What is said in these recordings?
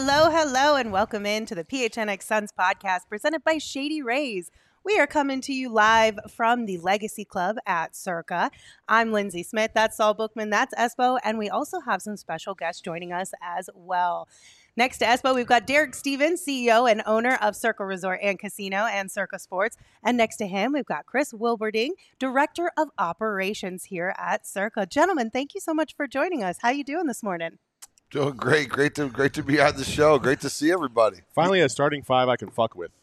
Hello, and welcome in to the PHNX Suns podcast presented by Shady Rays. We are coming to you live from the Legacy Club at Circa. I'm Lindsay Smith. That's Saul Bookman. That's Espo. And we also have some special guests joining us as well. Next to Espo, we've got Derek Stevens, CEO and owner of Circa Resort and Casino and Circa Sports. And next to him, we've got Chris Wilberding, Director of Operations here at Circa. Gentlemen, thank you so much for joining us. How you doing this morning? Doing great. Great to be on the show. Great to see everybody. Finally, a starting five I can fuck with.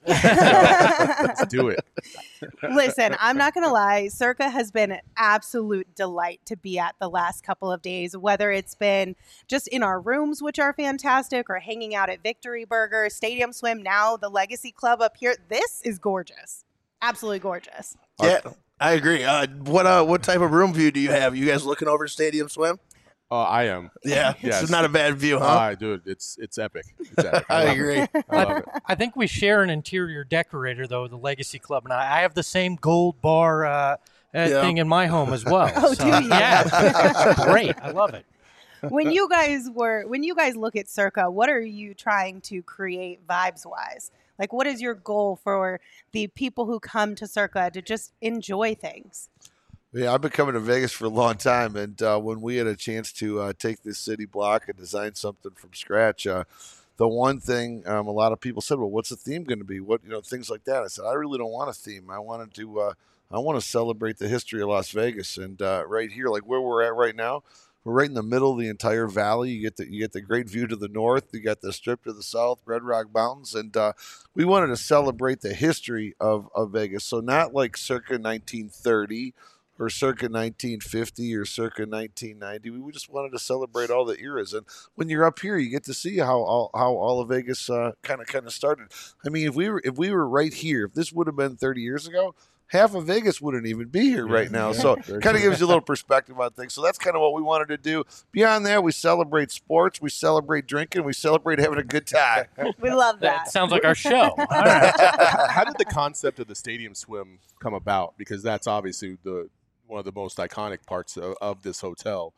Let's do it. Listen, I'm not going to lie. Circa has been an absolute delight to be at the last couple of days, whether it's been just in our rooms, which are fantastic, or hanging out at Victory Burger, Stadium Swim, now the Legacy Club up here. This is gorgeous. Absolutely gorgeous. Yeah, I agree. What type of room view do you have? You guys looking over Stadium Swim? I am. Yeah, Yes. It's not a bad view, huh? Dude, it's epic. It's epic. I love agree. it. I love it. I think we share an interior decorator, though, the Legacy Club, and I have the same gold bar thing in my home as well. Oh, do you? Yeah, great. I love it. When you guys look at Circa, what are you trying to create vibes-wise? Like, what is your goal for the people who come to Circa to just enjoy things? Yeah, I've been coming to Vegas for a long time, and when we had a chance to take this city block and design something from scratch, the one thing a lot of people said, "Well, what's the theme going to be?" Things like that. I said, "I really don't want a theme. I want to celebrate the history of Las Vegas." And right here, like where we're at right now, we're right in the middle of the entire valley. You get the great view to the north. You got the strip to the south, Red Rock Mountains, and we wanted to celebrate the history of Vegas. So not like circa 1930. Or circa 1950 or circa 1990. We just wanted to celebrate all the eras. And when you're up here, you get to see how all of Vegas kind of started. I mean, if we were right here, if this would have been 30 years ago, half of Vegas wouldn't even be here right now. So kind of gives you a little perspective on things. So that's kind of what we wanted to do. Beyond that, we celebrate sports, we celebrate drinking, we celebrate having a good time. We love That that. sounds like our show. All right. How did the concept of the Stadium Swim come about? Because that's obviously one of the most iconic parts of this hotel.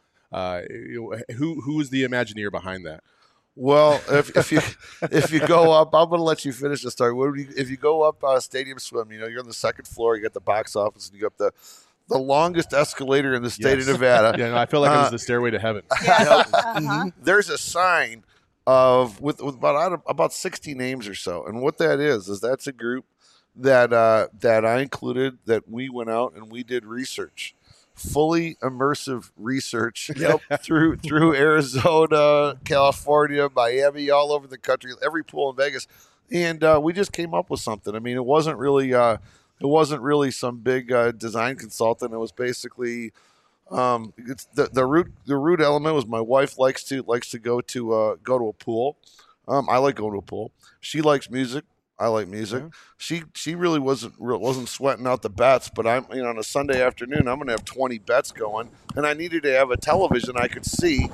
Who is the Imagineer behind that? Well, if you go up, I'm going to let you finish the story. If you go up Stadium Swim, you're on the second floor. You got the box office, and you go up the longest escalator in the state of Nevada. Yeah, no, I feel like it was the stairway to heaven. There's a sign with about 60 names or so, and what that is that's a group that I included, that we went out and we did research, fully immersive research through Arizona, California, Miami, all over the country, every pool in Vegas, and we just came up with something. I mean, it wasn't really some big design consultant. It was basically it's the root element was my wife likes to go to a pool. I like going to a pool. She likes music. I like music. Yeah. She really wasn't sweating out the bets, but I'm on a Sunday afternoon I'm going to have 20 bets going, and I needed to have a television I could see.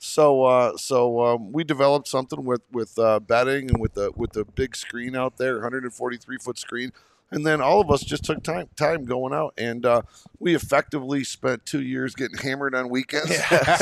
So we developed something with betting and with the big screen out there, 143-foot screen. And then all of us just took time going out, and we effectively spent 2 years getting hammered on weekends,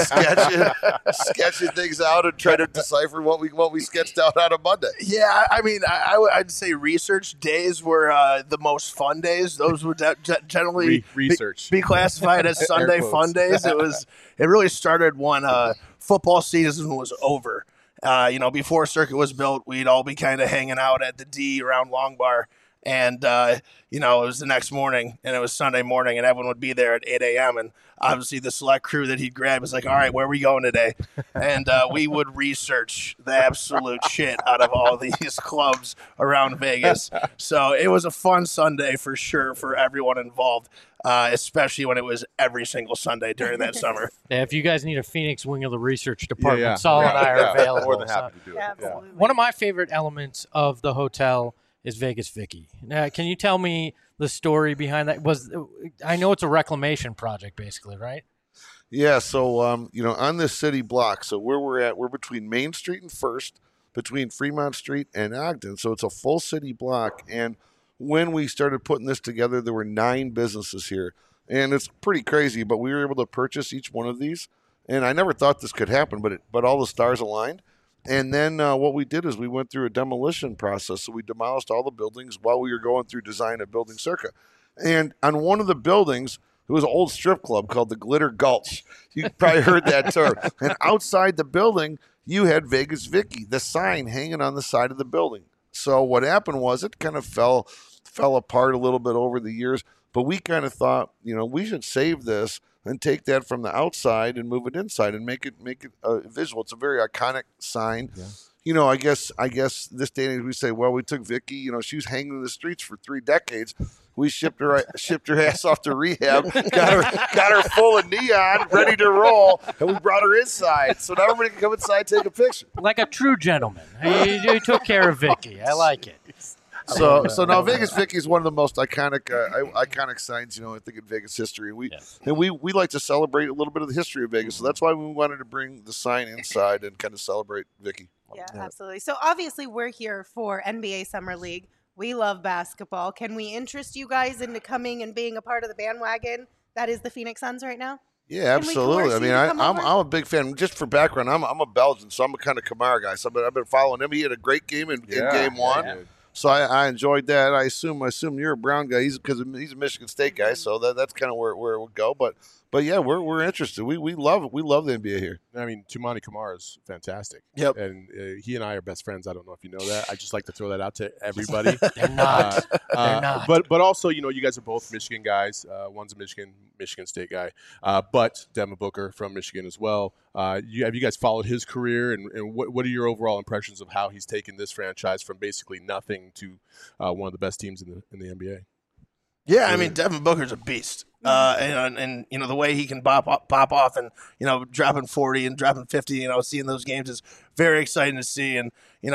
sketching things out, and trying to decipher what we sketched out on a Monday. Yeah, I mean, I'd say research days were the most fun days. Those would generally be classified as Sunday fun days. It really started when football season was over. Before Circuit was built, we'd all be kind of hanging out at the D around Long Bar. And, it was the next morning, and it was Sunday morning, and everyone would be there at 8 a.m. And obviously the select crew that he'd grab was like, all right, where are we going today? And we would research the absolute shit out of all these clubs around Vegas. So it was a fun Sunday for sure for everyone involved, especially when it was every single Sunday during that summer. Yeah, if you guys need a Phoenix wing of the research department, Saul and I are available. More than happy to do it. Absolutely. One of my favorite elements of the hotel is Vegas Vicky. Now, can you tell me the story behind that? I know it's a reclamation project, basically, right? Yeah. So on this city block, so where we're between Main Street and First, between Fremont Street and Ogden. So it's a full city block. And when we started putting this together, there were 9 businesses here, and it's pretty crazy. But we were able to purchase each one of these, and I never thought this could happen, but all the stars aligned. And then what we did is we went through a demolition process. So we demolished all the buildings while we were going through design of building Circa. And on one of the buildings, it was an old strip club called the Glitter Gulch. You probably heard that term. And outside the building, you had Vegas Vicky, the sign hanging on the side of the building. So what happened was it kind of fell apart a little bit over the years. But we kind of thought, we should save this and take that from the outside and move it inside and make it visual. It's a very iconic sign. Yeah. I guess this day and age we say, well, we took Vicky. She was hanging in the streets for 3 decades. We shipped her ass off to rehab, got her full of neon, ready to roll, and we brought her inside. So now everybody can come inside, take a picture. Like a true gentleman. You took care of Vicky. I like it. So now Vegas Vicky is one of the most iconic signs, I think, in Vegas history. We like to celebrate a little bit of the history of Vegas. So that's why we wanted to bring the sign inside and kind of celebrate Vicky. Yeah, absolutely. So obviously we're here for NBA Summer League. We love basketball. Can we interest you guys into coming and being a part of the bandwagon that is the Phoenix Suns right now? Yeah, absolutely. I mean, I'm a big fan. Just for background, I'm a Belgian, so I'm a kind of Kamara guy. So I've been following him. He had a great game in game one. Yeah. So I enjoyed that. I assume you're a Brown guy. Because he's a Michigan State guy. So that's kind of where it would go. But yeah, we're interested. We love it. We love the NBA here. I mean, Toumani Camara is fantastic. Yep. And he and I are best friends. I don't know if you know that. I just like to throw that out to everybody. They're not. They're not. But also, you guys are both Michigan guys. One's a Michigan State guy. But Devin Booker from Michigan as well. Have you guys followed his career? And what are your overall impressions of how he's taken this franchise from basically nothing to one of the best teams in the NBA? Yeah, I mean, Devin Booker's a beast. And the way he can pop off and, dropping 40 and dropping 50, seeing those games is very exciting to see. And,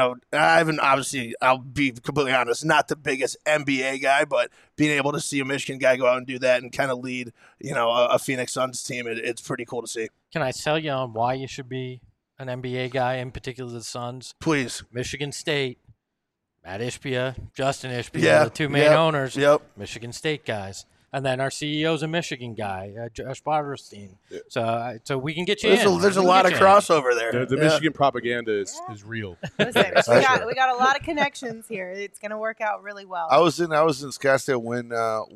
I'll be completely honest, not the biggest NBA guy, but being able to see a Michigan guy go out and do that and kind of lead, a Phoenix Suns team, it's pretty cool to see. Can I tell you on why you should be an NBA guy, in particular the Suns? Please. Michigan State, Matt Ishbia, Justin Ishbia, the two main owners, Michigan State guys. And then our CEO's a Michigan guy, Josh Barberstein. Yeah. So we can get you in. There's a lot of crossover there. The Michigan propaganda is real. Listen, we got a lot of connections here. It's going to work out really well. I was in Scottsdale when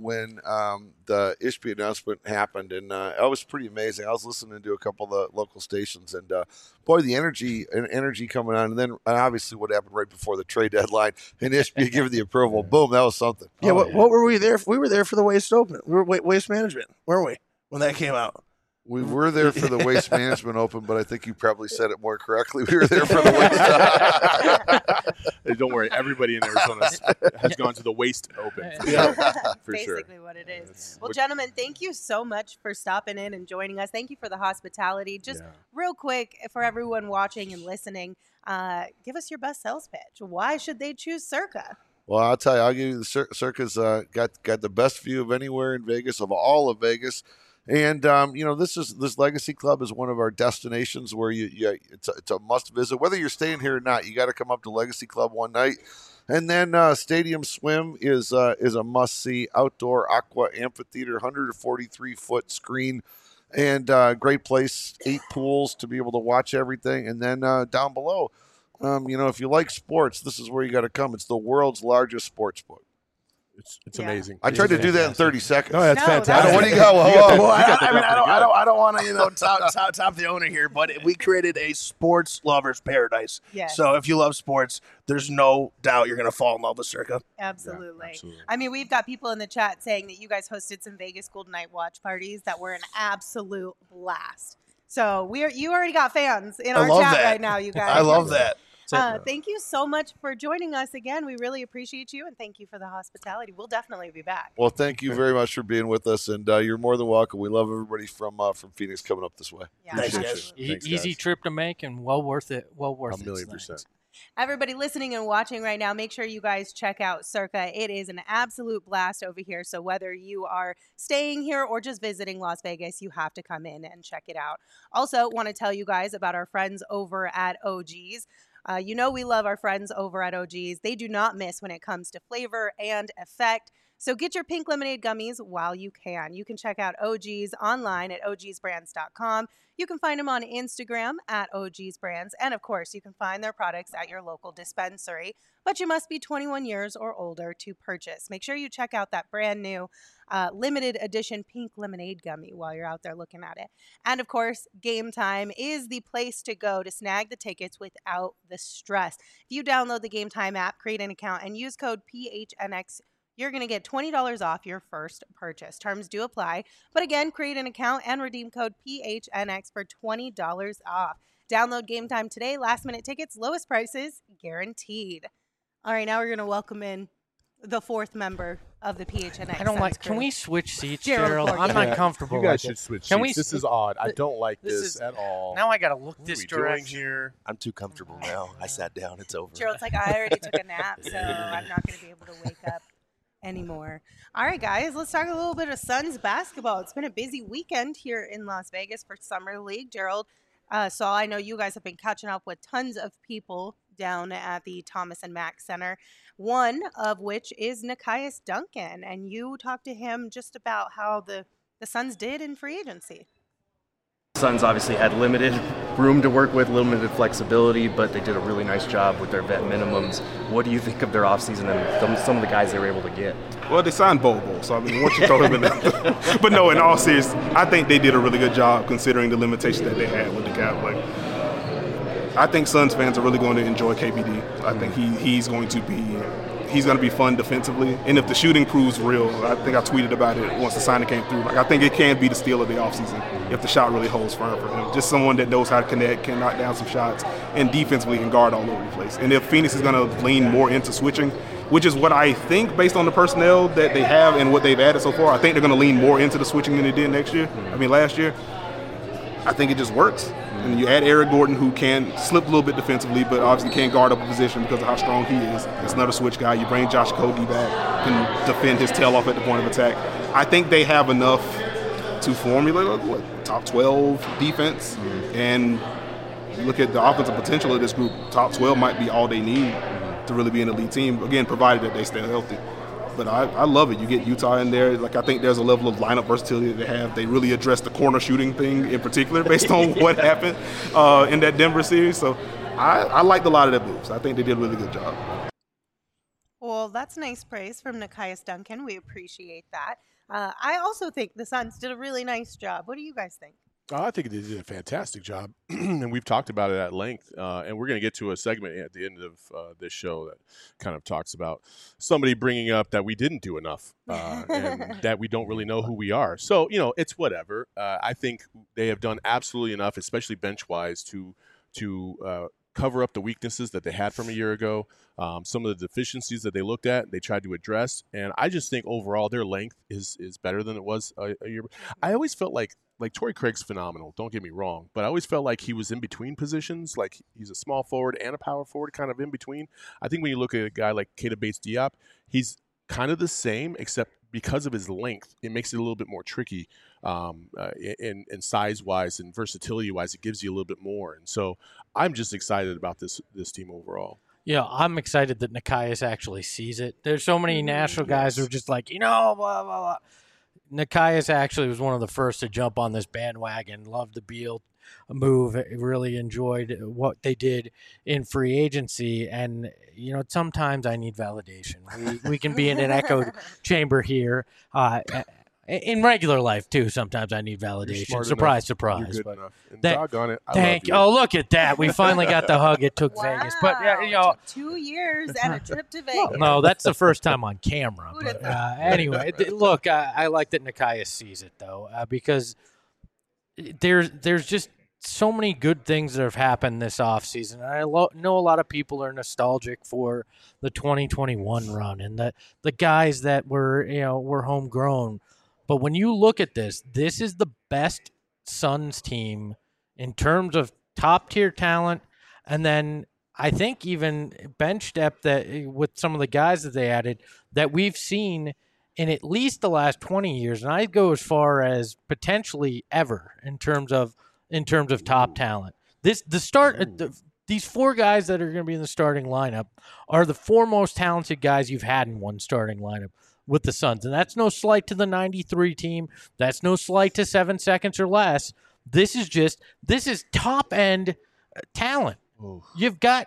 the Ishbia announcement happened, and it was pretty amazing. I was listening to a couple of the local stations, and boy, the energy coming on. And then obviously what happened right before the trade deadline, and Ishbia giving the approval. Boom, that was something. Yeah, what were we there for? We were there for the Waste Open. We were Waste Management, weren't we, when that came out? We were there for the Waste Management Open, but I think you probably said it more correctly. We were there for the Waste. Don't worry, everybody in Arizona has gone to the Waste Open. For sure. Basically what it is. Well, gentlemen, thank you so much for stopping in and joining us. Thank you for the hospitality. Just real quick, for everyone watching and listening, give us your best sales pitch. Why should they choose Circa? Well, I'll tell you, I'll give you the Circa's got the best view of anywhere in Vegas, of all of Vegas. And, this Legacy Club is one of our destinations where it's a must visit. Whether you're staying here or not, you got to come up to Legacy Club one night. And then Stadium Swim is a must-see outdoor aqua amphitheater, 143-foot screen, and great place, 8 pools to be able to watch everything. And then down below, if you like sports, this is where you got to come. It's the world's largest sports book. It's amazing. I tried to do that in 30 seconds. No, that's fantastic. What do you got? I don't want to top the owner here, but we created a sports lover's paradise. Yes. So if you love sports, there's no doubt you're going to fall in love with Circa. Absolutely. Yeah, absolutely. I mean, we've got people in the chat saying that you guys hosted some Vegas Golden Night watch parties that were an absolute blast. So you already got fans in our chat right now, you guys. I love that. Thank you so much for joining us again. We really appreciate you, and thank you for the hospitality. We'll definitely be back. Well, thank you very much for being with us, and you're more than welcome. We love everybody from Phoenix coming up this way. Yeah, Thanks, guys. Easy trip to make and well worth it. Well worth it. 1,000,000%. Everybody listening and watching right now, make sure you guys check out Circa. It is an absolute blast over here. So whether you are staying here or just visiting Las Vegas, you have to come in and check it out. Also, want to tell you guys about our friends over at OG's. We love our friends over at OG's. They do not miss when it comes to flavor and effect. So get your pink lemonade gummies while you can. You can check out OGs online at ogsbrands.com. You can find them on Instagram at ogsbrands. And of course, you can find their products at your local dispensary. But you must be 21 years or older to purchase. Make sure you check out that brand new limited edition pink lemonade gummy while you're out there looking at it. And of course, Game Time is the place to go to snag the tickets without the stress. If you download the Game Time app, create an account, and use code PHNX, you're going to get $20 off your first purchase. Terms do apply. But again, create an account and redeem code PHNX for $20 off. Download Game Time today. Last minute tickets, lowest prices guaranteed. All right, now we're going to welcome in the fourth member of the PHNX. I don't like. Crew. Can we switch seats, Gerald? I'm not comfortable. You guys should switch seats. This is odd. I don't like this at all. Now I got to look what this are we direction. Doing here? I'm too comfortable now. I sat down. It's over. Gerald's like, I already took a nap, so I'm not going to be able to wake up anymore. All right, guys, let's talk a little bit of Suns basketball. It's been a busy weekend here in Las Vegas for Summer League. Gerald, so I know you guys have been catching up with tons of people down at the Thomas and Mack Center, one of which is Nekias Duncan, and you talked to him just about how the Suns did in free agency. Suns obviously had limited room to work with, limited flexibility, but they did a really nice job with their vet minimums. What do you think of their offseason and some of the guys they were able to get? Well, they signed Bol, so I mean, once you throw him in there. But no, in all seriousness, I think they did a really good job considering the limitations that they had with the cap. Like, I think Suns fans are really going to enjoy KBD. I think he's going to be fun defensively. And if the shooting proves real, I think I tweeted about it once the signing came through. Like, I think it can be the steal of the offseason if the shot really holds firm for him. Just someone that knows how to connect, can knock down some shots, and defensively can guard all over the place. And if Phoenix is going to lean more into switching, which is what I think based on the personnel that they have and what they've added so far, I think they're going to lean more into the switching than they did last year. I think it just works. And you add Eric Gordon, who can slip a little bit defensively, but obviously can't guard up a position because of how strong he is. It's another switch guy. You bring Josh Okogie back, can defend his tail off at the point of attack. I think they have enough to formulate top 12 defense. And you look at the offensive potential of this group, top 12 might be all they need to really be an elite team, again, provided that they stay healthy. But I love it. You get Utah in there. Like, I think there's a level of lineup versatility that they have. They really addressed the corner shooting thing in particular based on what happened in that Denver series. So I liked a lot of their moves. I think they did a really good job. Well, that's nice praise from Nekias Duncan. We appreciate that. I also think the Suns did a really nice job. What do you guys think? I think they did a fantastic job, and we've talked about it at length. And we're going to get to a segment at the end of this show that kind of talks about somebody bringing up that we didn't do enough and that we don't really know who we are. So, it's whatever. I think they have done absolutely enough, especially bench-wise, to cover up the weaknesses that they had from a year ago, some of the deficiencies that they looked at, they tried to address. And I just think overall their length is better than it was a year ago. I always felt like Torrey Craig's phenomenal, don't get me wrong, but I always felt like he was in between positions, like he's a small forward and a power forward, kind of in between. I think when you look at a guy like Keita Bates-Diop, he's kind of the same, except because of his length, it makes it a little bit more tricky in size-wise and versatility-wise. It gives you a little bit more. And so I'm just excited about this team overall. Yeah, I'm excited that Nekias actually sees it. There's so many national guys who are just like, blah, blah, blah. Nekias actually was one of the first to jump on this bandwagon, loved the Beal move, really enjoyed what they did in free agency. And, sometimes I need validation. We can be in an echo chamber here. In regular life, too, sometimes I need validation. Surprise, surprise. You're good enough. And doggone it, thank you. Oh, look at that. We finally got the hug it took Vegas. But, it took 2 years and a trip to Vegas. No, that's the first time on camera. But anyway, look, I like that Nekias sees it, though, because there's just so many good things that have happened this offseason. I know a lot of people are nostalgic for the 2021 run and the guys that were homegrown. But when you look at this is the best Suns team in terms of top-tier talent, and then I think even bench depth that with some of the guys that they added that we've seen in at least the last 20 years, and I'd go as far as potentially ever in terms of top talent. These 4 guys that are going to be in the starting lineup are the 4 most talented guys you've had in one starting lineup. with the Suns. And that's no slight to the 93 team. That's no slight to 7 seconds or less. This is top-end talent. Ooh. You've got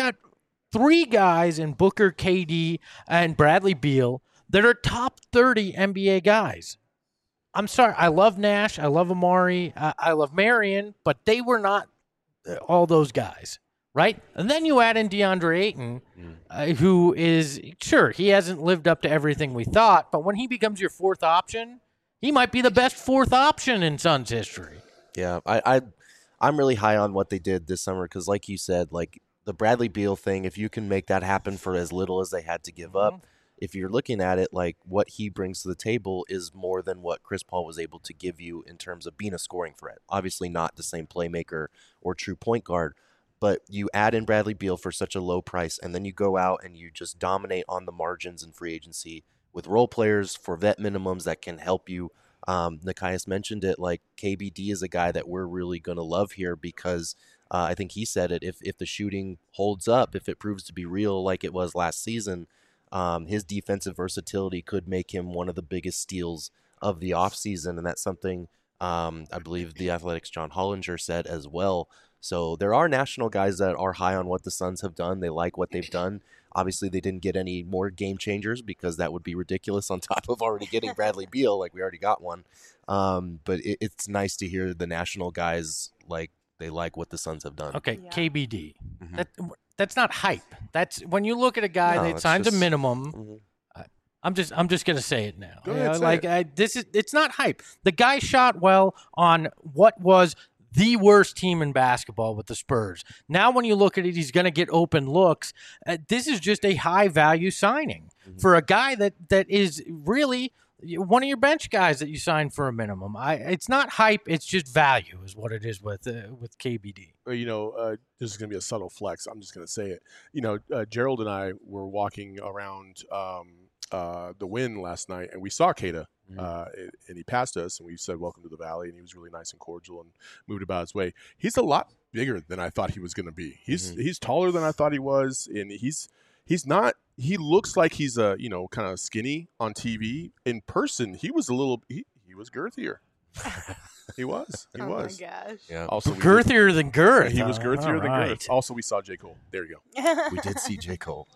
3 guys in Booker, KD, and Bradley Beal that are top 30 NBA guys. I'm sorry. I love Nash. I love Amari. I love Marion, but they were not all those guys, right? And then you add in DeAndre Ayton, who is, sure, he hasn't lived up to everything we thought, but when he becomes your 4th option, he might be the best 4th option in Suns history. Yeah, I'm really high on what they did this summer because, like you said, like the Bradley Beal thing, if you can make that happen for as little as they had to give up, if you're looking at it, like what he brings to the table is more than what Chris Paul was able to give you in terms of being a scoring threat. Obviously not the same playmaker or true point guard, but you add in Bradley Beal for such a low price, and then you go out and you just dominate on the margins in free agency with role players for vet minimums that can help you. Nekias mentioned it, like KBD is a guy that we're really going to love here because I think he said it, if the shooting holds up, if it proves to be real like it was last season, his defensive versatility could make him one of the biggest steals of the offseason, and that's something I believe the Athletics' John Hollinger said as well. So there are national guys that are high on what the Suns have done. They like what they've done. Obviously, they didn't get any more game changers because that would be ridiculous on top of already getting Bradley Beal, like we already got one. But it's nice to hear the national guys, like, they like what the Suns have done. Okay, yeah. KBD. Mm-hmm. That's not hype. That's when you look at a guy that signs a minimum. Mm-hmm. I'm just gonna say it now. It's not hype. The guy shot well on what was the worst team in basketball with the Spurs. Now, when you look at it, he's going to get open looks. This is just a high-value signing for a guy that is really one of your bench guys that you signed for a minimum. It's not hype. It's just value is what it is with KBD. This is going to be a subtle flex. I'm just going to say it. Gerald and I were walking around the Wynn last night, and we saw Keita. And he passed us, and we said, "Welcome to the Valley," and he was really nice and cordial and moved about his way. He's a lot bigger than I thought he was going to be. He's taller than I thought he was, and he's not. He looks like he's kind of skinny on TV. In person, he was he was girthier. He was. Oh my gosh. Yeah. Also, girthier than girth. He was girthier than girth. Also, we saw J. Cole. There you go. We did see J. Cole.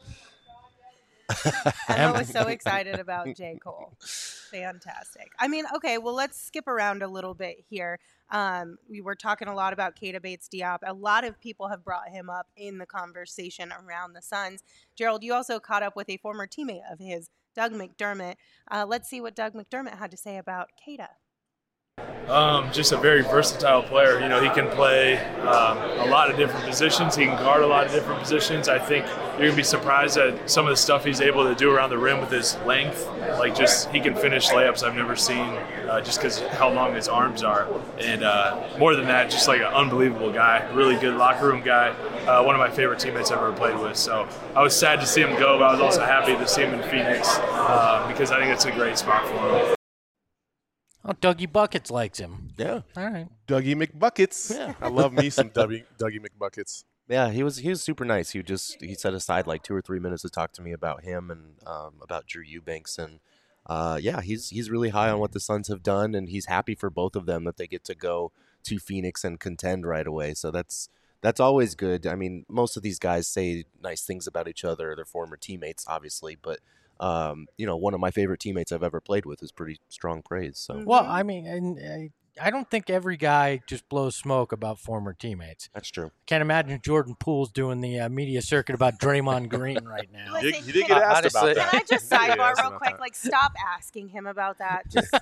Emma was so excited about J. Cole. Fantastic. I mean, okay, well, let's skip around a little bit here. We were talking a lot about Keita Bates-Diop. A lot of people have brought him up in the conversation around the Suns. Gerald, you also caught up with a former teammate of his, Doug McDermott. Let's see what Doug McDermott had to say about Keita. Just a very versatile player. He can play a lot of different positions. He can guard a lot of different positions. I think you're going to be surprised at some of the stuff he's able to do around the rim with his length. He can finish layups I've never seen just because how long his arms are. And more than that, just like an unbelievable guy, really good locker room guy, one of my favorite teammates I've ever played with. So I was sad to see him go, but I was also happy to see him in Phoenix because I think it's a great spot for him. Oh, Dougie Buckets likes him. Yeah. All right. Dougie McBuckets. Yeah. I love me some Dougie McBuckets. Yeah, he was super nice. He set aside like 2 or 3 minutes to talk to me about him and about Drew Eubanks. And he's really high on what the Suns have done, and he's happy for both of them that they get to go to Phoenix and contend right away. So that's always good. I mean, most of these guys say nice things about each other, their former teammates, obviously, but one of my favorite teammates I've ever played with is pretty strong praise. So, well, I mean, and I don't think every guy just blows smoke about former teammates. That's true. Can't imagine Jordan Poole's doing the media circuit about Draymond Green right now. Listen, he did get asked about that. Can I just sidebar real quick? Stop asking him about that. Just.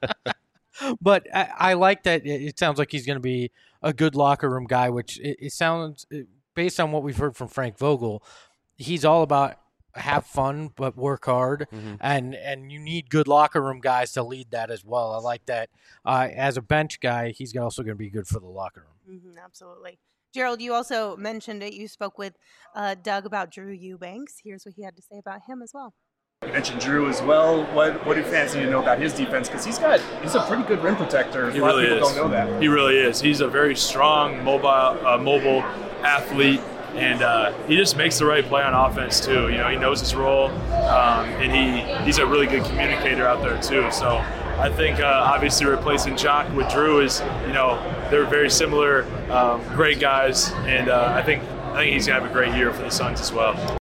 But I like that. It sounds like he's going to be a good locker room guy, which it sounds, based on what we've heard from Frank Vogel, he's all about have fun but work hard, and you need good locker room guys to lead that as well. I like that. As a bench guy, he's also going to be good for the locker room. Absolutely. Gerald, you also mentioned it. You spoke with Doug about Drew Eubanks. Here's what he had to say about him as well. You mentioned Drew as well. What do fans need to know about his defense? Because he's a pretty good rim protector. He really is. Don't know that. He really is. He's a very strong, mobile athlete. and he just makes the right play on offense too. You know, he knows his role, and he's a really good communicator out there too. So I think obviously replacing Jock with Drew is, you know, they're very similar, great guys, and I think he's gonna have a great year for the Suns as well.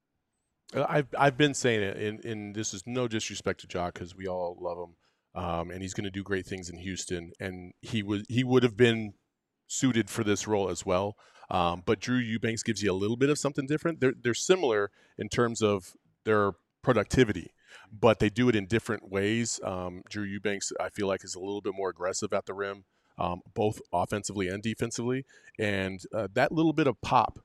I've been saying it, and this is no disrespect to Jock because we all love him, and he's going to do great things in Houston, and he would have been suited for this role as well. But Drew Eubanks gives you a little bit of something different. They're similar in terms of their productivity, but they do it in different ways. Drew Eubanks, I feel like, is a little bit more aggressive at the rim, both offensively and defensively, and that little bit of pop.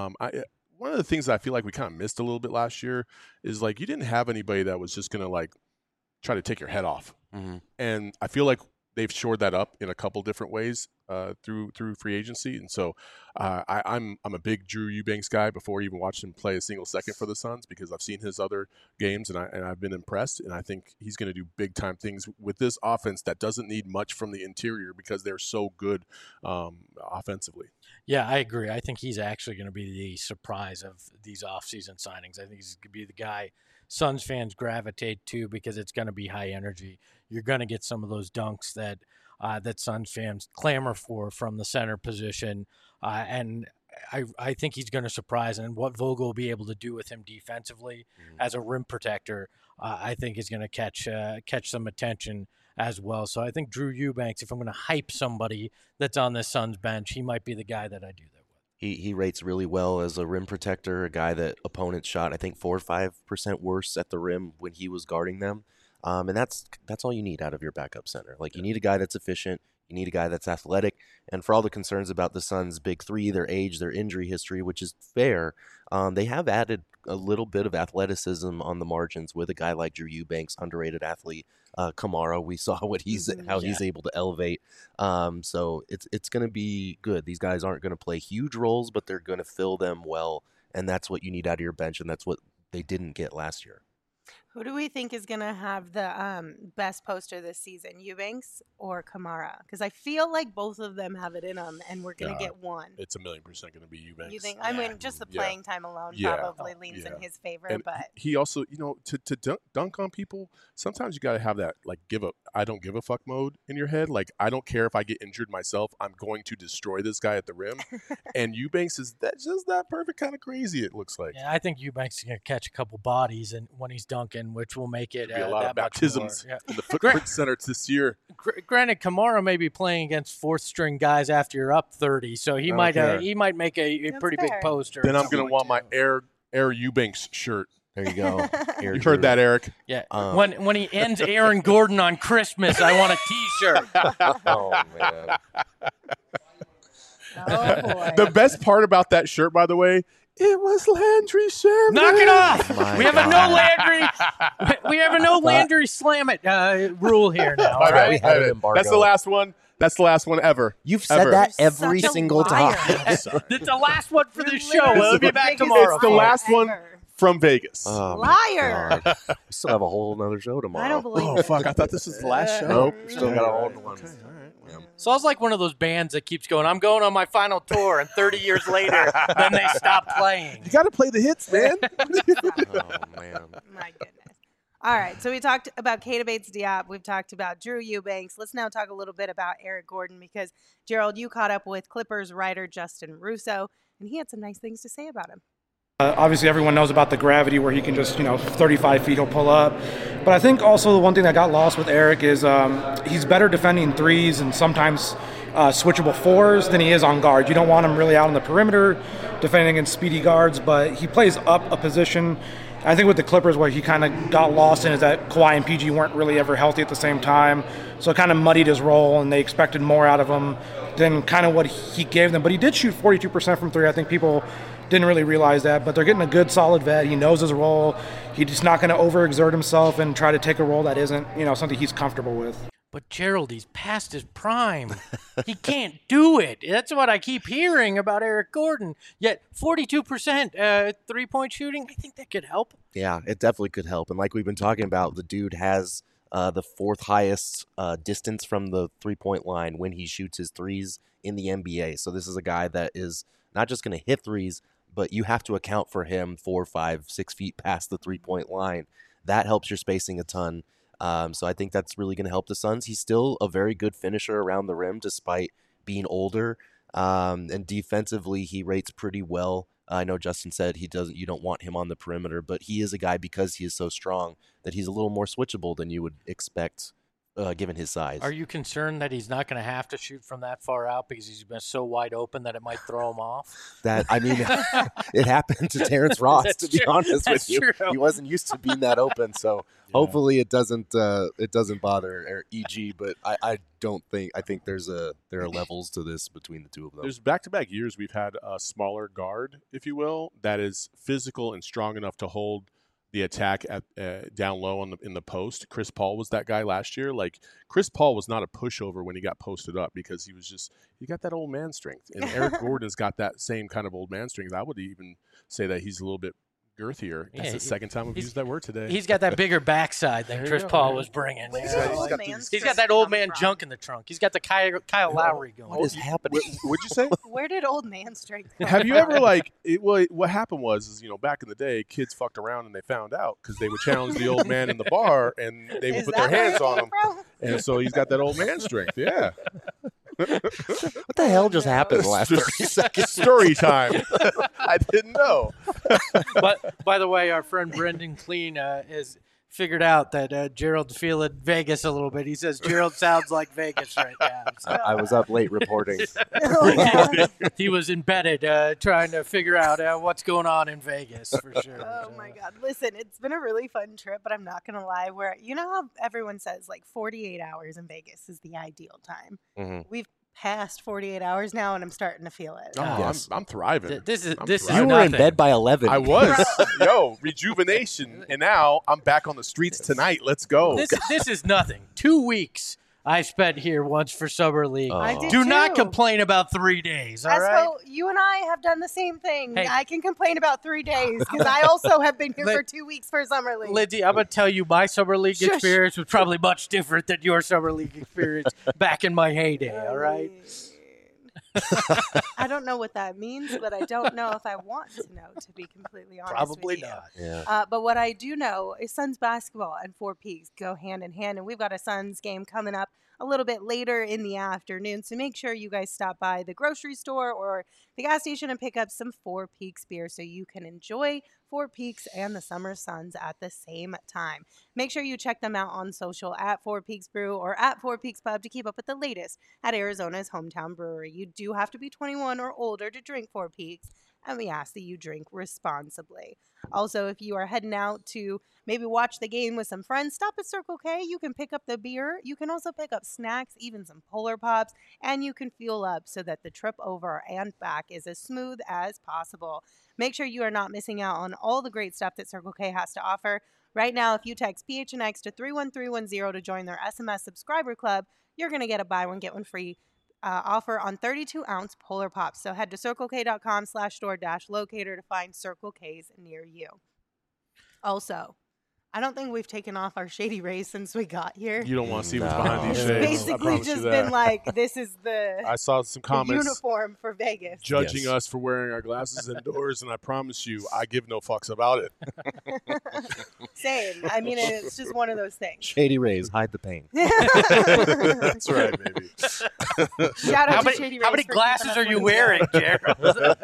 One of the things that I feel like we kind of missed a little bit last year is, like, you didn't have anybody that was just going to, like, try to take your head off. Mm-hmm. And I feel like they've shored that up in a couple different ways through free agency. And so I'm a big Drew Eubanks guy before I even watched him play a single second for the Suns, because I've seen his other games and I've been impressed. And I think he's going to do big time things with this offense that doesn't need much from the interior because they're so good offensively. Yeah, I agree. I think he's actually going to be the surprise of these offseason signings. I think he's going to be the guy Suns fans gravitate to because it's going to be high energy. You're going to get some of those dunks that Suns fans clamor for from the center position, and I think he's going to surprise. And what Vogel will be able to do with him defensively as a rim protector, I think is going to catch some attention as well. So I think Drew Eubanks, if I'm going to hype somebody that's on this Suns bench, he might be the guy that I do that with. He rates really well as a rim protector, a guy that opponents shot, I think, 4 or 5% worse at the rim when he was guarding them. And that's all you need out of your backup center. Like, you need a guy that's efficient. You need a guy that's athletic. And for all the concerns about the Suns' big three, their age, their injury history, which is fair, they have added a little bit of athleticism on the margins with a guy like Drew Eubanks, underrated athlete. Kamara, we saw what he's able to elevate. So it's going to be good. These guys aren't going to play huge roles, but they're going to fill them well, and that's what you need out of your bench, and that's what they didn't get last year. Who do we think is going to have the best poster this season, Eubanks or Kamara? Because I feel like both of them have it in them, and we're going to get one. It's 1,000,000% going to be Eubanks. You think? I mean, just the playing time alone probably leans in his favor. And but he also, you know, to dunk on people, sometimes you got to have that, like, I don't give a fuck mode in your head. Like, I don't care if I get injured myself. I'm going to destroy this guy at the rim. And Eubanks is just that perfect kind of crazy, it looks like. Yeah, I think Eubanks is going to catch a couple bodies and when he's dunking, which will make it be a lot of baptisms in the footprint center this year. Granted, Kamara may be playing against fourth-string guys after you're up 30, so he might make a pretty big poster. Then I'm going to want my Air Eubanks shirt. There you go. You heard that, Eric? Yeah. When he ends Aaron Gordon on Christmas, I want a T-shirt. Oh, man. oh boy, The best part about that shirt, by the way, it was Landry Shamet. Knock it off! We have a no Landry slam it rule here now. All right? We have an embargo. That's the last one. That's the last one ever. You've said that every single time. It's the last one for this show. We'll be back tomorrow. It's the last one from Vegas. Oh, liar! We still have a whole other show tomorrow. I don't believe Oh, fuck. I thought this was the last show. Nope. Still got a whole one. Okay, all right. So I was like one of those bands that keeps going, I'm going on my final tour, and 30 years later, then they stop playing. You got to play the hits, man. Oh, man. My goodness. All right, so we talked about Keita Bates-Diop. We've talked about Drew Eubanks. Let's now talk a little bit about Eric Gordon because, Gerald, you caught up with Clippers writer Justin Russo, and he had some nice things to say about him. Obviously, everyone knows about the gravity where he can just, 35 feet he'll pull up. But I think also the one thing that got lost with Eric is he's better defending threes and sometimes switchable fours than he is on guard. You don't want him really out on the perimeter defending against speedy guards, but he plays up a position. I think with the Clippers, what he kind of got lost in is that Kawhi and PG weren't really ever healthy at the same time. So it kind of muddied his role, and they expected more out of him than kind of what he gave them. But he did shoot 42% from three. I think people didn't really realize that, but they're getting a good, solid vet. He knows his role. He's just not going to overexert himself and try to take a role that isn't, something he's comfortable with. But Gerald, he's past his prime. He can't do it. That's what I keep hearing about Eric Gordon. Yet 42% three-point shooting, I think that could help. Yeah, it definitely could help. And like we've been talking about, the dude has the fourth highest distance from the three-point line when he shoots his threes in the NBA. So this is a guy that is not just going to hit threes, but you have to account for him 4, 5, 6 feet past the 3-point line. That helps your spacing a ton. So I think that's really going to help the Suns. He's still a very good finisher around the rim despite being older. And defensively, he rates pretty well. I know Justin said you don't want him on the perimeter, but he is a guy, because he is so strong, that he's a little more switchable than you would expect given his size. Are you concerned that he's not going to have to shoot from that far out because he's been so wide open that it might throw him off? It happened to Terrence Ross, to be honest with you. True. He wasn't used to being that open, so hopefully it doesn't bother EG. But I think there are levels to this between the two of them. There's back-to-back years we've had a smaller guard, if you will, that is physical and strong enough to hold the attack at down low in the post. Chris Paul was that guy last year. Like, Chris Paul was not a pushover when he got posted up because he got that old man strength. And Eric Gordon's got that same kind of old man strength. I would even say that he's a little bit girthier. That's the second time we've used that word today. He's got that bigger backside than Chris Paul was bringing. He's got that old man junk in the trunk. He's got the Kyle Lowry going. What is happening? What'd you say? Where did old man strength come Have you ever what happened was back in the day, kids fucked around and they found out because they would challenge the old man in the bar and they would put their hands on him. And so he's got that old man strength. Yeah. What the hell just happened in the last 30 seconds? Story time. I didn't know. But by the way, our friend Brendan Clean has figured out that Gerald's feeling Vegas a little bit. He says Gerald sounds like Vegas right now. So. I was up late reporting. He was embedded trying to figure out what's going on in Vegas for sure. Oh my God. Listen, it's been a really fun trip, but I'm not going to lie. You know how everyone says 48 hours in Vegas is the ideal time? Mm-hmm. We've past 48 hours now, and I'm starting to feel it. Oh, yes. I'm thriving. This is you were in bed by 11. I was. Rejuvenation, and now I'm back on the streets tonight. Let's go. This is nothing. 2 weeks I spent here once for Summer League. I did Do too. Not complain about 3 days, all right? You and I have done the same thing. Hey. I can complain about 3 days because I also have been here for 2 weeks for Summer League. Lindsay, I'm going to tell you my Summer League experience was probably much different than your Summer League experience back in my heyday, all right? I don't know what that means, but I don't know if I want to know, to be completely honest Probably with you. not. Yeah. But what I do know is Suns basketball and Four Peaks go hand in hand, and we've got a Suns game coming up a little bit later in the afternoon, so make sure you guys stop by the grocery store or the gas station and pick up some Four Peaks beer so you can enjoy Four Peaks and the Summer Suns at the same time. Make sure you check them out on social at Four Peaks Brew or at Four Peaks Pub to keep up with the latest at Arizona's hometown brewery. You do have to be 21 or older to drink Four Peaks, and we ask that you drink responsibly. Also, if you are heading out to maybe watch the game with some friends, stop at Circle K. You can pick up the beer. You can also pick up snacks, even some Polar Pops, and you can fuel up so that the trip over and back is as smooth as possible. Make sure you are not missing out on all the great stuff that Circle K has to offer. Right now, if you text PHNX to 31310 to join their SMS subscriber club, you're going to get a buy one, get one free offer on 32-ounce Polar Pops. So head to circlek.com/store-locator to find Circle K's near you. Also, I don't think we've taken off our Shady Rays since we got here. You don't want to see what's behind these shades. Basically just been like, this is I saw some comments uniform for Vegas. Judging us for wearing our glasses indoors, and I promise you, I give no fucks about it. Same. I mean, it's just one of those things. Shady Rays, hide the pain. That's right, baby. Shout out to Shady Rays. How many glasses are you wearing, Gerald?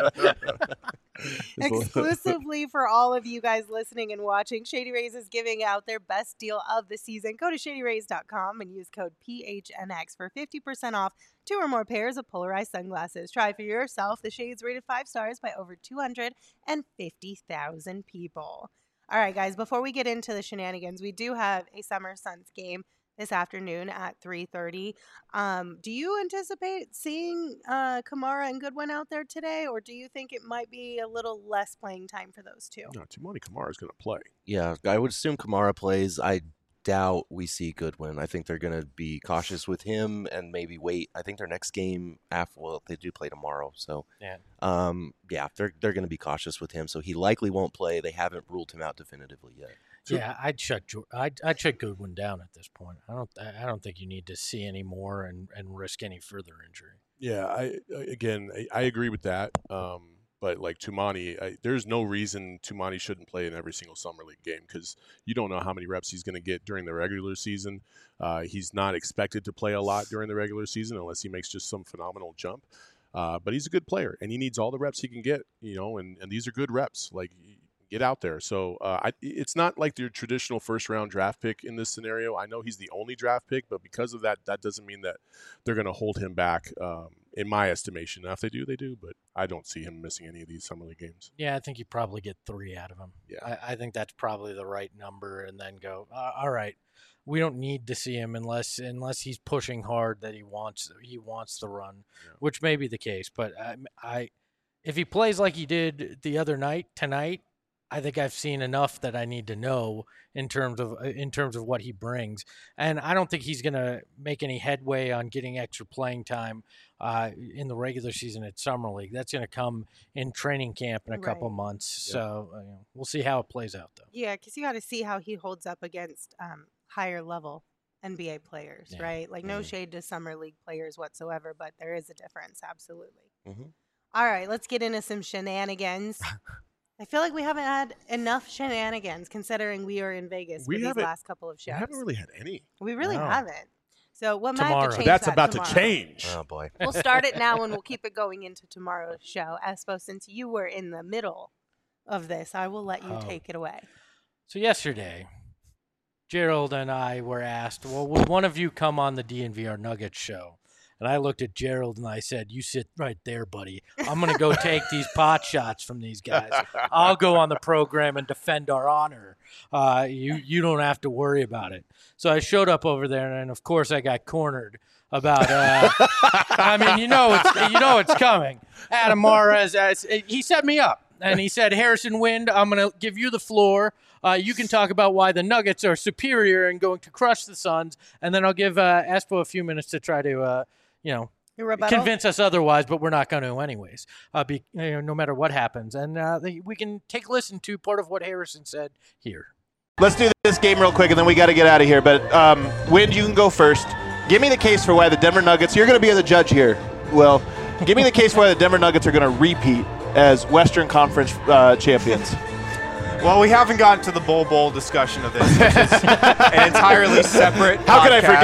Exclusively for all of you guys listening and watching, Shady Rays is giving out their best deal of the season. Go to shadyrays.com and use code PHNX for 50% off 2 or more pairs of polarized sunglasses. Try for yourself. The shades rated 5 stars by over 250,000 people. All right, guys, before we get into the shenanigans, we do have a Summer Suns game this afternoon at 3:30. Do you anticipate seeing Kamara and Goodwin out there today, or do you think it might be a little less playing time for those two? No, Timoni Kamara is going to play. Yeah, I would assume Kamara plays. I doubt we see Goodwin. I think they're going to be cautious with him and maybe wait. I think their next game they do play tomorrow, so they're going to be cautious with him. So he likely won't play. They haven't ruled him out definitively yet. Yeah, I'd shut Goodwin down at this point. I don't think you need to see any more and risk any further injury. Yeah, I agree with that. But like Toumani, there's no reason Toumani shouldn't play in every single summer league game because you don't know how many reps he's going to get during the regular season. He's not expected to play a lot during the regular season unless he makes just some phenomenal jump. But he's a good player, and he needs all the reps he can get, and these are good reps. Like, get out there. So it's not like your traditional first-round draft pick in this scenario. I know he's the only draft pick, but because of that, that doesn't mean that they're going to hold him back, in my estimation. Now, if they do, they do, but I don't see him missing any of these summer league games. Yeah, I think you probably get 3 out of him. Yeah. I think that's probably the right number, and then go, all right, we don't need to see him unless he's pushing hard that he wants the run, which may be the case. But if he plays like he did the other night, tonight, I think I've seen enough that I need to know in terms of what he brings. And I don't think he's going to make any headway on getting extra playing time in the regular season at Summer League. That's going to come in training camp in a couple months. Yeah. So we'll see how it plays out, though. Yeah, because you got to see how he holds up against higher level NBA players, right? Like, no shade to Summer League players whatsoever, but there is a difference, absolutely. Mm-hmm. All right, let's get into some shenanigans. I feel like we haven't had enough shenanigans considering we are in Vegas for these last couple of shows. We haven't really had any. We really haven't. So what might tomorrow. have to change That's that about tomorrow. to change. Oh, boy. We'll start it now and we'll keep it going into tomorrow's show. Espo, since you were in the middle of this, I will let you take it away. So yesterday, Gerald and I were asked, well, would one of you come on the DNVR Nuggets show? And I looked at Gerald and I said, you sit right there, buddy. I'm going to go take these pot shots from these guys. I'll go on the program and defend our honor. You don't have to worry about it. So I showed up over there, and of course I got cornered about. I mean, it's coming. Adam Mares, he set me up, and he said, Harrison Wind, I'm going to give you the floor. You can talk about why the Nuggets are superior and going to crush the Suns, and then I'll give Espo a few minutes to try to, convince us otherwise, but we're not going to anyways, no matter what happens. And we can take a listen to part of what Harrison said here. Let's do this game real quick, and then we got to get out of here. But, Wind, you can go first. Give me the case for why the Denver Nuggets – you're going to be the judge here, Will. Give me the case for why the Denver Nuggets are going to repeat as Western Conference champions. Well, we haven't gotten to the Bowl discussion of this, which is an entirely separate How podcast. could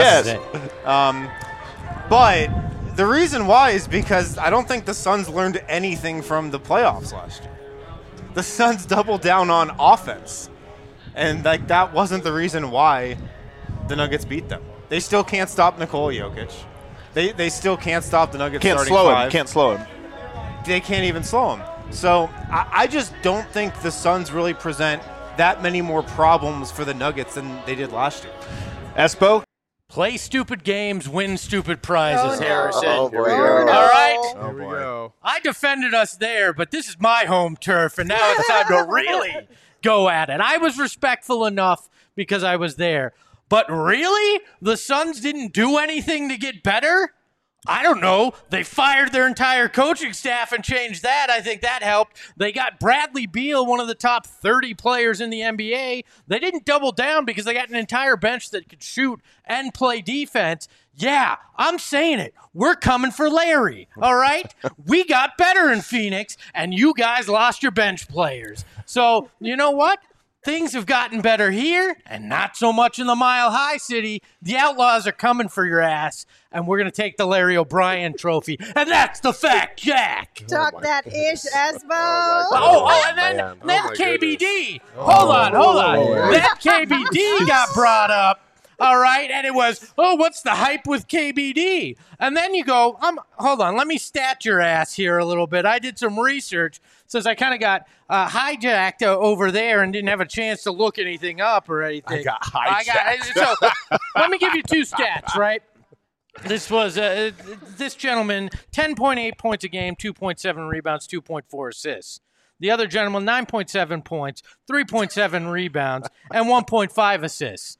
I forget? But the reason why is because I don't think the Suns learned anything from the playoffs last year. The Suns doubled down on offense, and that wasn't the reason why the Nuggets beat them. They still can't stop Nikola Jokic. They still can't stop the Nuggets starting five. Can't slow him. They can't even slow him. So I just don't think the Suns really present that many more problems for the Nuggets than they did last year. Espo? Play stupid games, win stupid prizes, Harrison. Oh, boy. All right? Here we go. I defended us there, but this is my home turf, and now it's time to really go at it. I was respectful enough because I was there. But really? The Suns didn't do anything to get better? I don't know. They fired their entire coaching staff and changed that. I think that helped. They got Bradley Beal, one of the top 30 players in the NBA. They didn't double down because they got an entire bench that could shoot and play defense. Yeah, I'm saying it. We're coming for Larry, all right? We got better in Phoenix, and you guys lost your bench players. So, you know what? Things have gotten better here and not so much in the Mile High City. The Outlaws are coming for your ass, and we're going to take the Larry O'Brien trophy. And that's the fact, Jack. Talk that ish, Espo. And then KBD. Hold on. That KBD got brought up. All right, and it was, what's the hype with KBD? And then you go, hold on, let me stat your ass here a little bit. I did some research since I kind of got hijacked over there and didn't have a chance to look anything up or anything. I got hijacked. So let me give you 2 stats, right? This was this gentleman, 10.8 points a game, 2.7 rebounds, 2.4 assists. The other gentleman, 9.7 points, 3.7 rebounds, and 1.5 assists.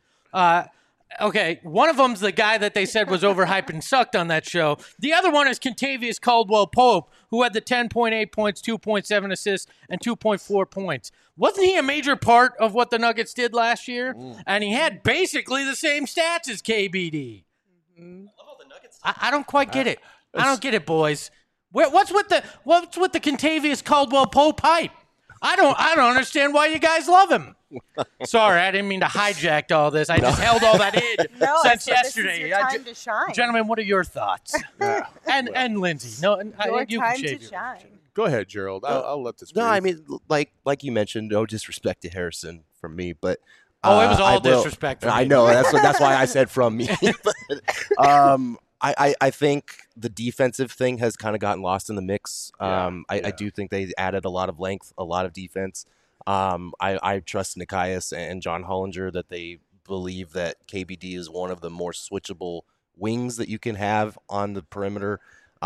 Okay, one of them's the guy that they said was overhyped and sucked on that show. The other one is Kentavious Caldwell-Pope, who had the 10.8 points, 2.7 assists, and 2.4 points. Wasn't he a major part of what the Nuggets did last year? And he had basically the same stats as KBD. I don't quite get it. I don't get it, boys. What's with the Kentavious Caldwell-Pope hype? I don't understand why you guys love him. Sorry, I didn't mean to hijack all this. I just held all that in since yesterday. This is your time to shine. Gentlemen, what are your thoughts? And Lindsay, your time to shine. Go ahead, Gerald. I'll let this. No, I mean, like you mentioned, no disrespect to Harrison from me, but it was all disrespect. I know that's why I said from me. But, I think the defensive thing has kind of gotten lost in the mix. I do think they added a lot of length, a lot of defense. I trust Nekias and John Hollinger that they believe that KBD is one of the more switchable wings that you can have on the perimeter.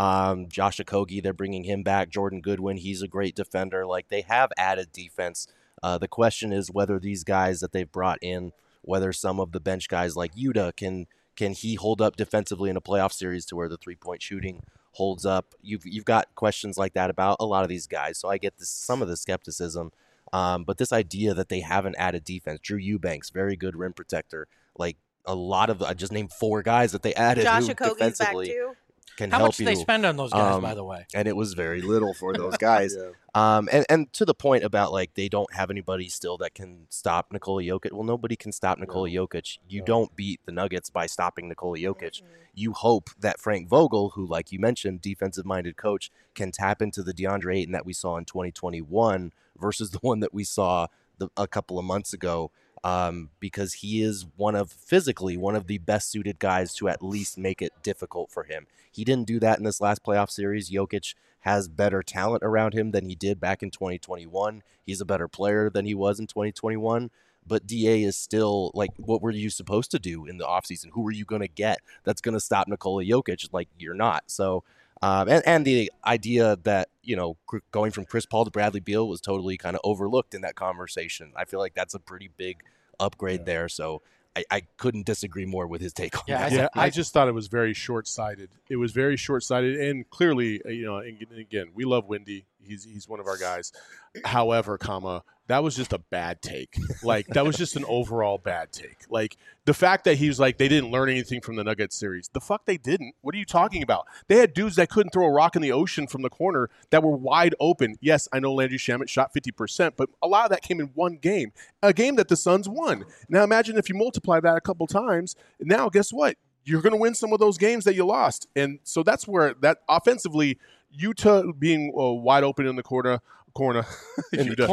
Josh Okogie, they're bringing him back. Jordan Goodwin, he's a great defender. Like, they have added defense. The question is whether these guys that they've brought in, whether some of the bench guys like Yuta can he hold up defensively in a playoff series to where the three-point shooting holds up. You've got questions like that about a lot of these guys. So I get some of the skepticism. But this idea that they haven't added defense, Drew Eubanks, very good rim protector. Like, a lot of I just named 4 guys that they added Josh who Okogie's defensively back too. Can How help much you. did they spend on those guys, by the way? And it was very little for those guys. And to the point about, like, they don't have anybody still that can stop Nikola Jokic. Well, nobody can stop Nikola Jokic. You don't beat the Nuggets by stopping Nikola Jokic. You hope that Frank Vogel, who, like you mentioned, defensive-minded coach, can tap into the DeAndre Ayton that we saw in 2021 versus the one that we saw a couple of months ago. Because he is physically one of the best suited guys to at least make it difficult for him. He didn't do that in this last playoff series. Jokic has better talent around him than he did back in 2021. He's a better player than he was in 2021. But DA is still, like, what were you supposed to do in the offseason? Who were you going to get that's going to stop Nikola Jokic? Like, you're not. So, and the idea that, going from Chris Paul to Bradley Beal was totally kind of overlooked in that conversation. I feel like that's a pretty big upgrade there. So I couldn't disagree more with his take on that. I just thought it was very short-sighted. It was very short-sighted, and clearly, again, we love Wendy. He's one of our guys. However, that was just a bad take. Like, that was just an overall bad take. Like, the fact that he was like, they didn't learn anything from the Nuggets series. The fuck they didn't. What are you talking about? They had dudes that couldn't throw a rock in the ocean from the corner that were wide open. Yes, I know Landry Shamet shot 50%, but a lot of that came in one game, a game that the Suns won. Now imagine if you multiply that a couple times. Now, guess what? You're going to win some of those games that you lost. And so that's where that offensively, Utah being wide open in the corner. In the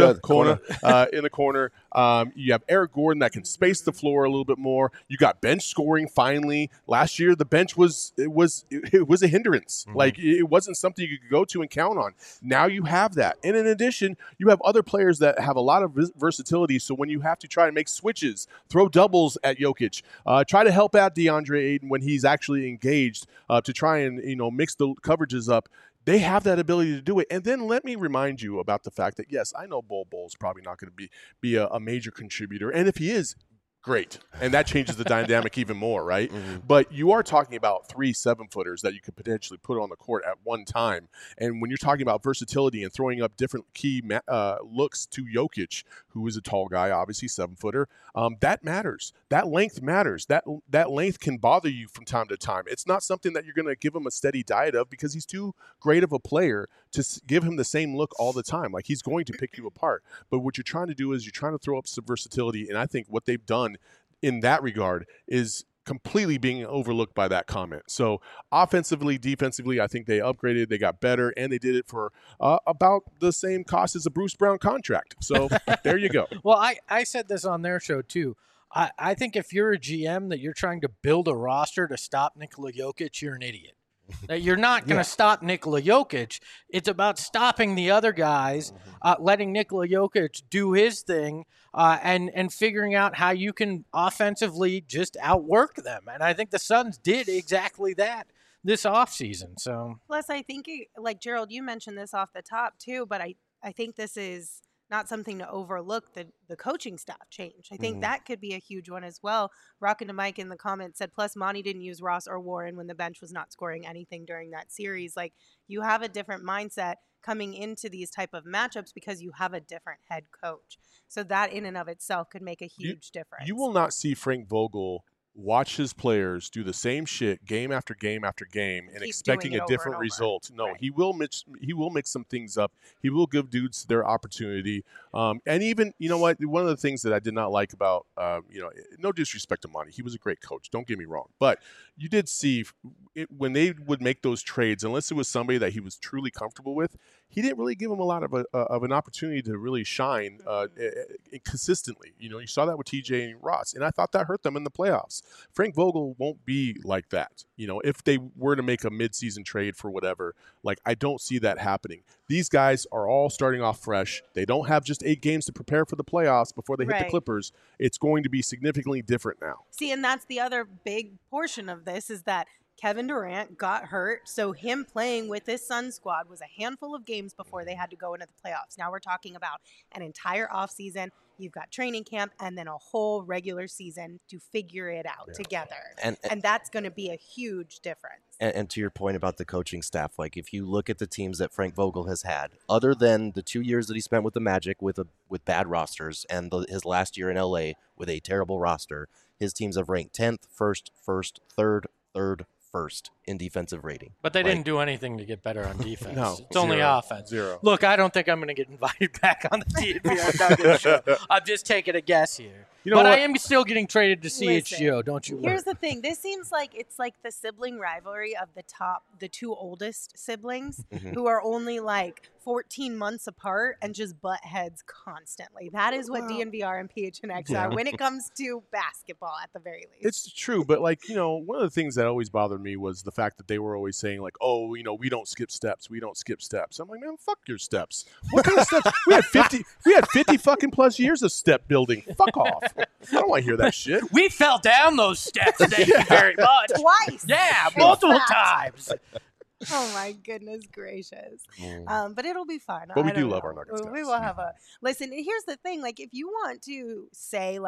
corner. You have Eric Gordon that can space the floor a little bit more. You got bench scoring finally. Last year the bench was a hindrance. Mm-hmm. Like, it wasn't something you could go to and count on. Now you have that. And in addition, you have other players that have a lot of versatility. So when you have to try to make switches, throw doubles at Jokic, try to help out DeAndre Ayton when he's actually engaged, to try and mix the coverages up. They have that ability to do it. And then let me remind you about the fact that, yes, I know Bull's probably not going to be a major contributor. And if he is, great. And that changes the dynamic even more, right? Mm-hmm. But you are talking about 3 7-footers that you could potentially put on the court at one time. And when you're talking about versatility and throwing up different key looks to Jokic, who is a tall guy, obviously 7-footer, that matters. That length matters. That length can bother you from time to time. It's not something that you're going to give him a steady diet of because he's too great of a player to give him the same look all the time. Like, he's going to pick you apart. But what you're trying to do is you're trying to throw up some versatility. And I think what they've done in that regard is completely being overlooked by that comment. So offensively, defensively, I think they upgraded, they got better, and they did it for about the same cost as a Bruce Brown contract. So there you go. Well, I said this on their show too. I think if you're a GM that you're trying to build a roster to stop Nikola Jokic, you're an idiot. That you're not going to stop Nikola Jokic. It's about stopping the other guys, letting Nikola Jokic do his thing, and figuring out how you can offensively just outwork them. And I think the Suns did exactly that this offseason. So, plus, I think, like Gerald, you mentioned this off the top too, but I think this is not something to overlook, the coaching staff change. I think that could be a huge one as well. Rockin' to Mike in the comments said, plus Monty didn't use Ross or Warren when the bench was not scoring anything during that series. Like, you have a different mindset coming into these type of matchups because you have a different head coach. So that in and of itself could make a huge difference. You will not see Frank Vogel watch his players do the same shit game after game after game and expecting a different result. No, he will mix some things up. He will give dudes their opportunity. And even, you know what, one of the things that I did not like about, no disrespect to Monty, he was a great coach, don't get me wrong, but you did see when they would make those trades, unless it was somebody that he was truly comfortable with, he didn't really give him a lot of an opportunity to really shine consistently. You saw that with TJ and Ross, and I thought that hurt them in the playoffs. Frank Vogel won't be like that. If they were to make a midseason trade for whatever, I don't see that happening. These guys are all starting off fresh. They don't have just 8 games to prepare for the playoffs before they hit the Clippers. It's going to be significantly different now. See, and that's the other big portion of this is that Kevin Durant got hurt, so him playing with this Suns squad was a handful of games before they had to go into the playoffs. Now we're talking about an entire offseason. You've got training camp and then a whole regular season to figure it out together. And that's going to be a huge difference. And to your point about the coaching staff, if you look at the teams that Frank Vogel has had, other than the 2 years that he spent with the Magic with bad rosters and his last year in LA with a terrible roster, his teams have ranked 10th, 1st, 3rd, first in defensive rating. But they didn't do anything to get better on defense. No, it's only offense. Zero. Look, I don't think I'm going to get invited back on the DNVR Nuggets show. I'm just taking a guess here. I am still getting traded to CHGO, don't you worry. Here's the thing. This seems like it's like the sibling rivalry of the 2 oldest siblings who are only 14 months apart and just butt heads constantly. That is what DNVR and PHNX are when it comes to basketball at the very least. It's true, but one of the things that always bothered me was the fact that they were always saying we don't skip steps. We don't skip steps. I'm like, man, fuck your steps. What kind of steps? We had 50 fucking plus years of step building. Fuck off. I don't want to hear that shit. We fell down those steps, thank you very much. Twice. Yeah, multiple times. Oh my goodness gracious. But it'll be fun. But we do love our Nuggets. We will have listen, here's the thing, if you want to say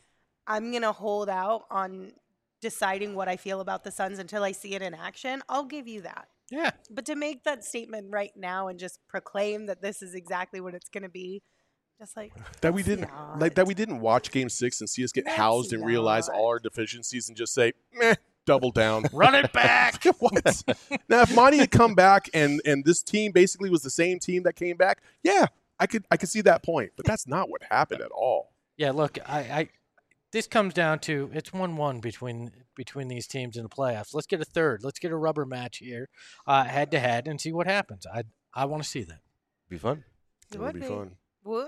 I'm going to hold out on deciding what I feel about the Suns until I see it in action, I'll give you that. Yeah. But to make that statement right now and just proclaim that this is exactly what it's going to be, just that we didn't watch Game 6 and see us get housed and realize all our deficiencies and just say, meh, double down. Run it back. What? Now, if Monty had come back and this team basically was the same team that came back, yeah, I could see that point. But that's not what happened at all. Yeah, look, this comes down to it's 1-1 between these teams in the playoffs. Let's get a third. Let's get a rubber match here, head to head, and see what happens. I want to see that. Be fun. It would be fun. Well,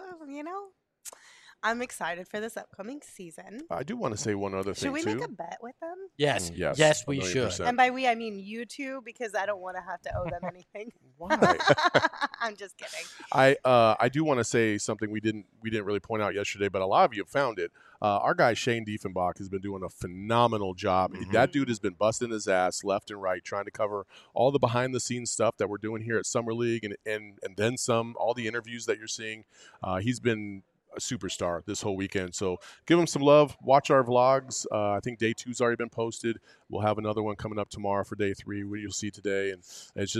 I'm excited for this upcoming season. I do want to say one other thing, too. Should we make a bet with them? Yes. Yes, we should. And by we, I mean you two, because I don't want to have to owe them anything. Why? I'm just kidding. I do want to say something we didn't really point out yesterday, but a lot of you have found it. Our guy Shane Diefenbach has been doing a phenomenal job. That dude has been busting his ass left and right, trying to cover all the behind-the-scenes stuff that we're doing here at Summer League and then some, all the interviews that you're seeing. He's been a superstar this whole weekend. So give him some love. Watch our vlogs. I think day 2's already been posted. We'll have another one coming up tomorrow for day 3, what you'll see today. And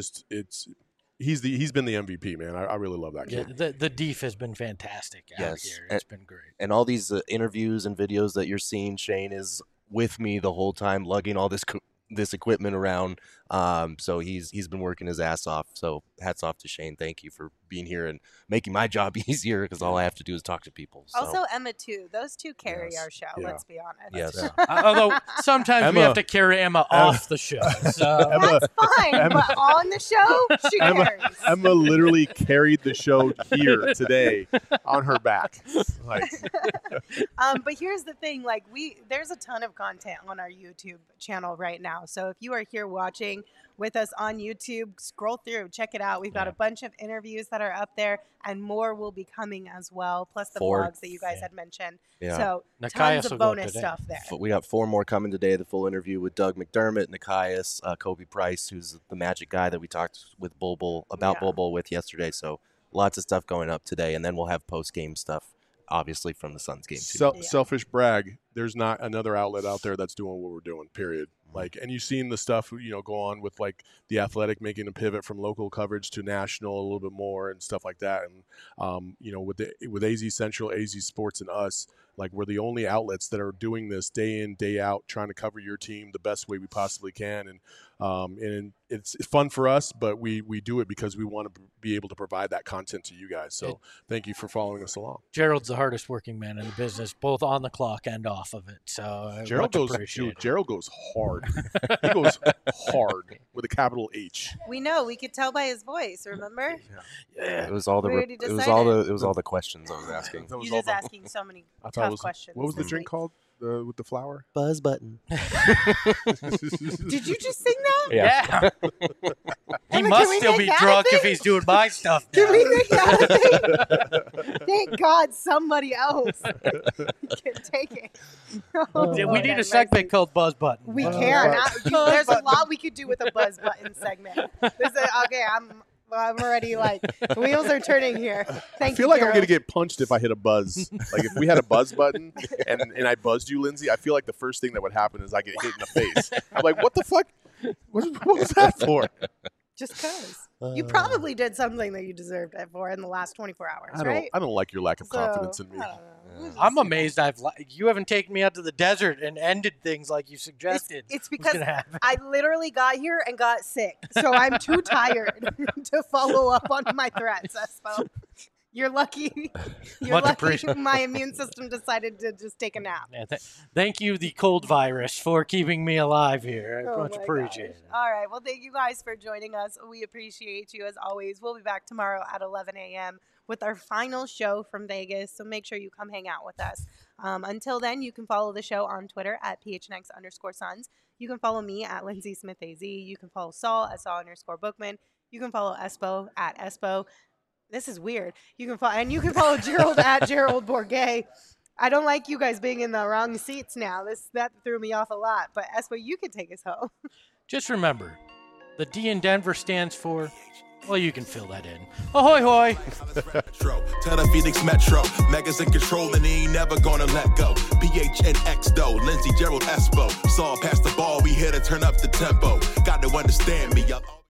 he's been the MVP, man. I really love that kid. Yeah, the Deef has been fantastic out here. It's been great. And all these interviews and videos that you're seeing, Shane is with me the whole time, lugging all this equipment around. So he's been working his ass off. So hats off to Shane. Thank you for being here and making my job easier, because all I have to do is talk to people. So. Also Emma too. Those two carry our show. Yeah. Let's be honest. Yes. Although sometimes we have to carry Emma off the show. So. That's fine. But on the show, she carries. Emma literally carried the show here today on her back. But here's the thing: there's a ton of content on our YouTube channel right now. So if you are here watching with us on YouTube, scroll through, check it out. We've got a bunch of interviews that are up there, and more will be coming as well, plus the vlogs that you guys had mentioned. Yeah. So tons of bonus stuff there. We got 4 more coming today. The full interview with Doug McDermott, Nikias, Kobe Price, who's the Magic guy that we talked with Bol Bol with yesterday. So lots of stuff going up today, and then we'll have post-game stuff, obviously, from the Suns game too. Selfish brag. There's not another outlet out there that's doing what we're doing, period. And you've seen the stuff, go on with the Athletic making a pivot from local coverage to national a little bit more and stuff like that. And, with AZ Central, AZ Sports, and us, we're the only outlets that are doing this day in, day out, trying to cover your team the best way we possibly can. And it's fun for us, but we do it because we want to be able to provide that content to you guys. So thank you for following us along. Gerald's the hardest working man in the business, both on the clock and off of it. So Gerald goes hard. He goes hard with a capital H. We know. We could tell by his voice. Remember? Yeah. It was all the questions I was asking. You're just asking so many tough questions. What was the drink called? With the flower? Buzz Button. Did you just sing that? Yeah. He must still be drunk if he's doing my stuff now. Can we make that a thing? Thank God somebody else can take it. We need a segment called Buzz Button. We can. There's a lot we could do with a Buzz Button segment. I'm already the wheels are turning here. I feel like I'm going to get punched if I hit a buzz. If we had a buzz button and I buzzed you, Lindsay, I feel like the first thing that would happen is I get hit in the face. I'm like, what the fuck? What was that for? Just because. You probably did something that you deserved it for in the last 24 hours, right? I don't like your lack of confidence in me. I'm amazed you haven't taken me out to the desert and ended things like you suggested. It's because I literally got here and got sick, so I'm too tired to follow up on my threats, Espo. You're lucky. My immune system decided to just take a nap. Yeah, thank you, the cold virus, for keeping me alive here. I much appreciate it. All right. Well, thank you guys for joining us. We appreciate you as always. We'll be back tomorrow at 11 a.m. with our final show from Vegas. So make sure you come hang out with us. Until then, you can follow the show on Twitter at PHNX_Suns. You can follow me at Lindsay Smith AZ. You can follow Saul at Saul_Bookman. You can follow Espo at Espo. This is weird. You can follow Gerald at Gerald Bourget. I don't like you guys being in the wrong seats now. That threw me off a lot. But Espo, you can take us home. Just remember, the D in Denver stands for. Well, you can fill that in. Ahoy, hoy! Tell the Phoenix Metro, Megas in control and he ain't never gonna let go. PHNX though, Lindsay, Gerald, Espo. Saw past the ball, we here to turn up the tempo. Got to understand me, y'all.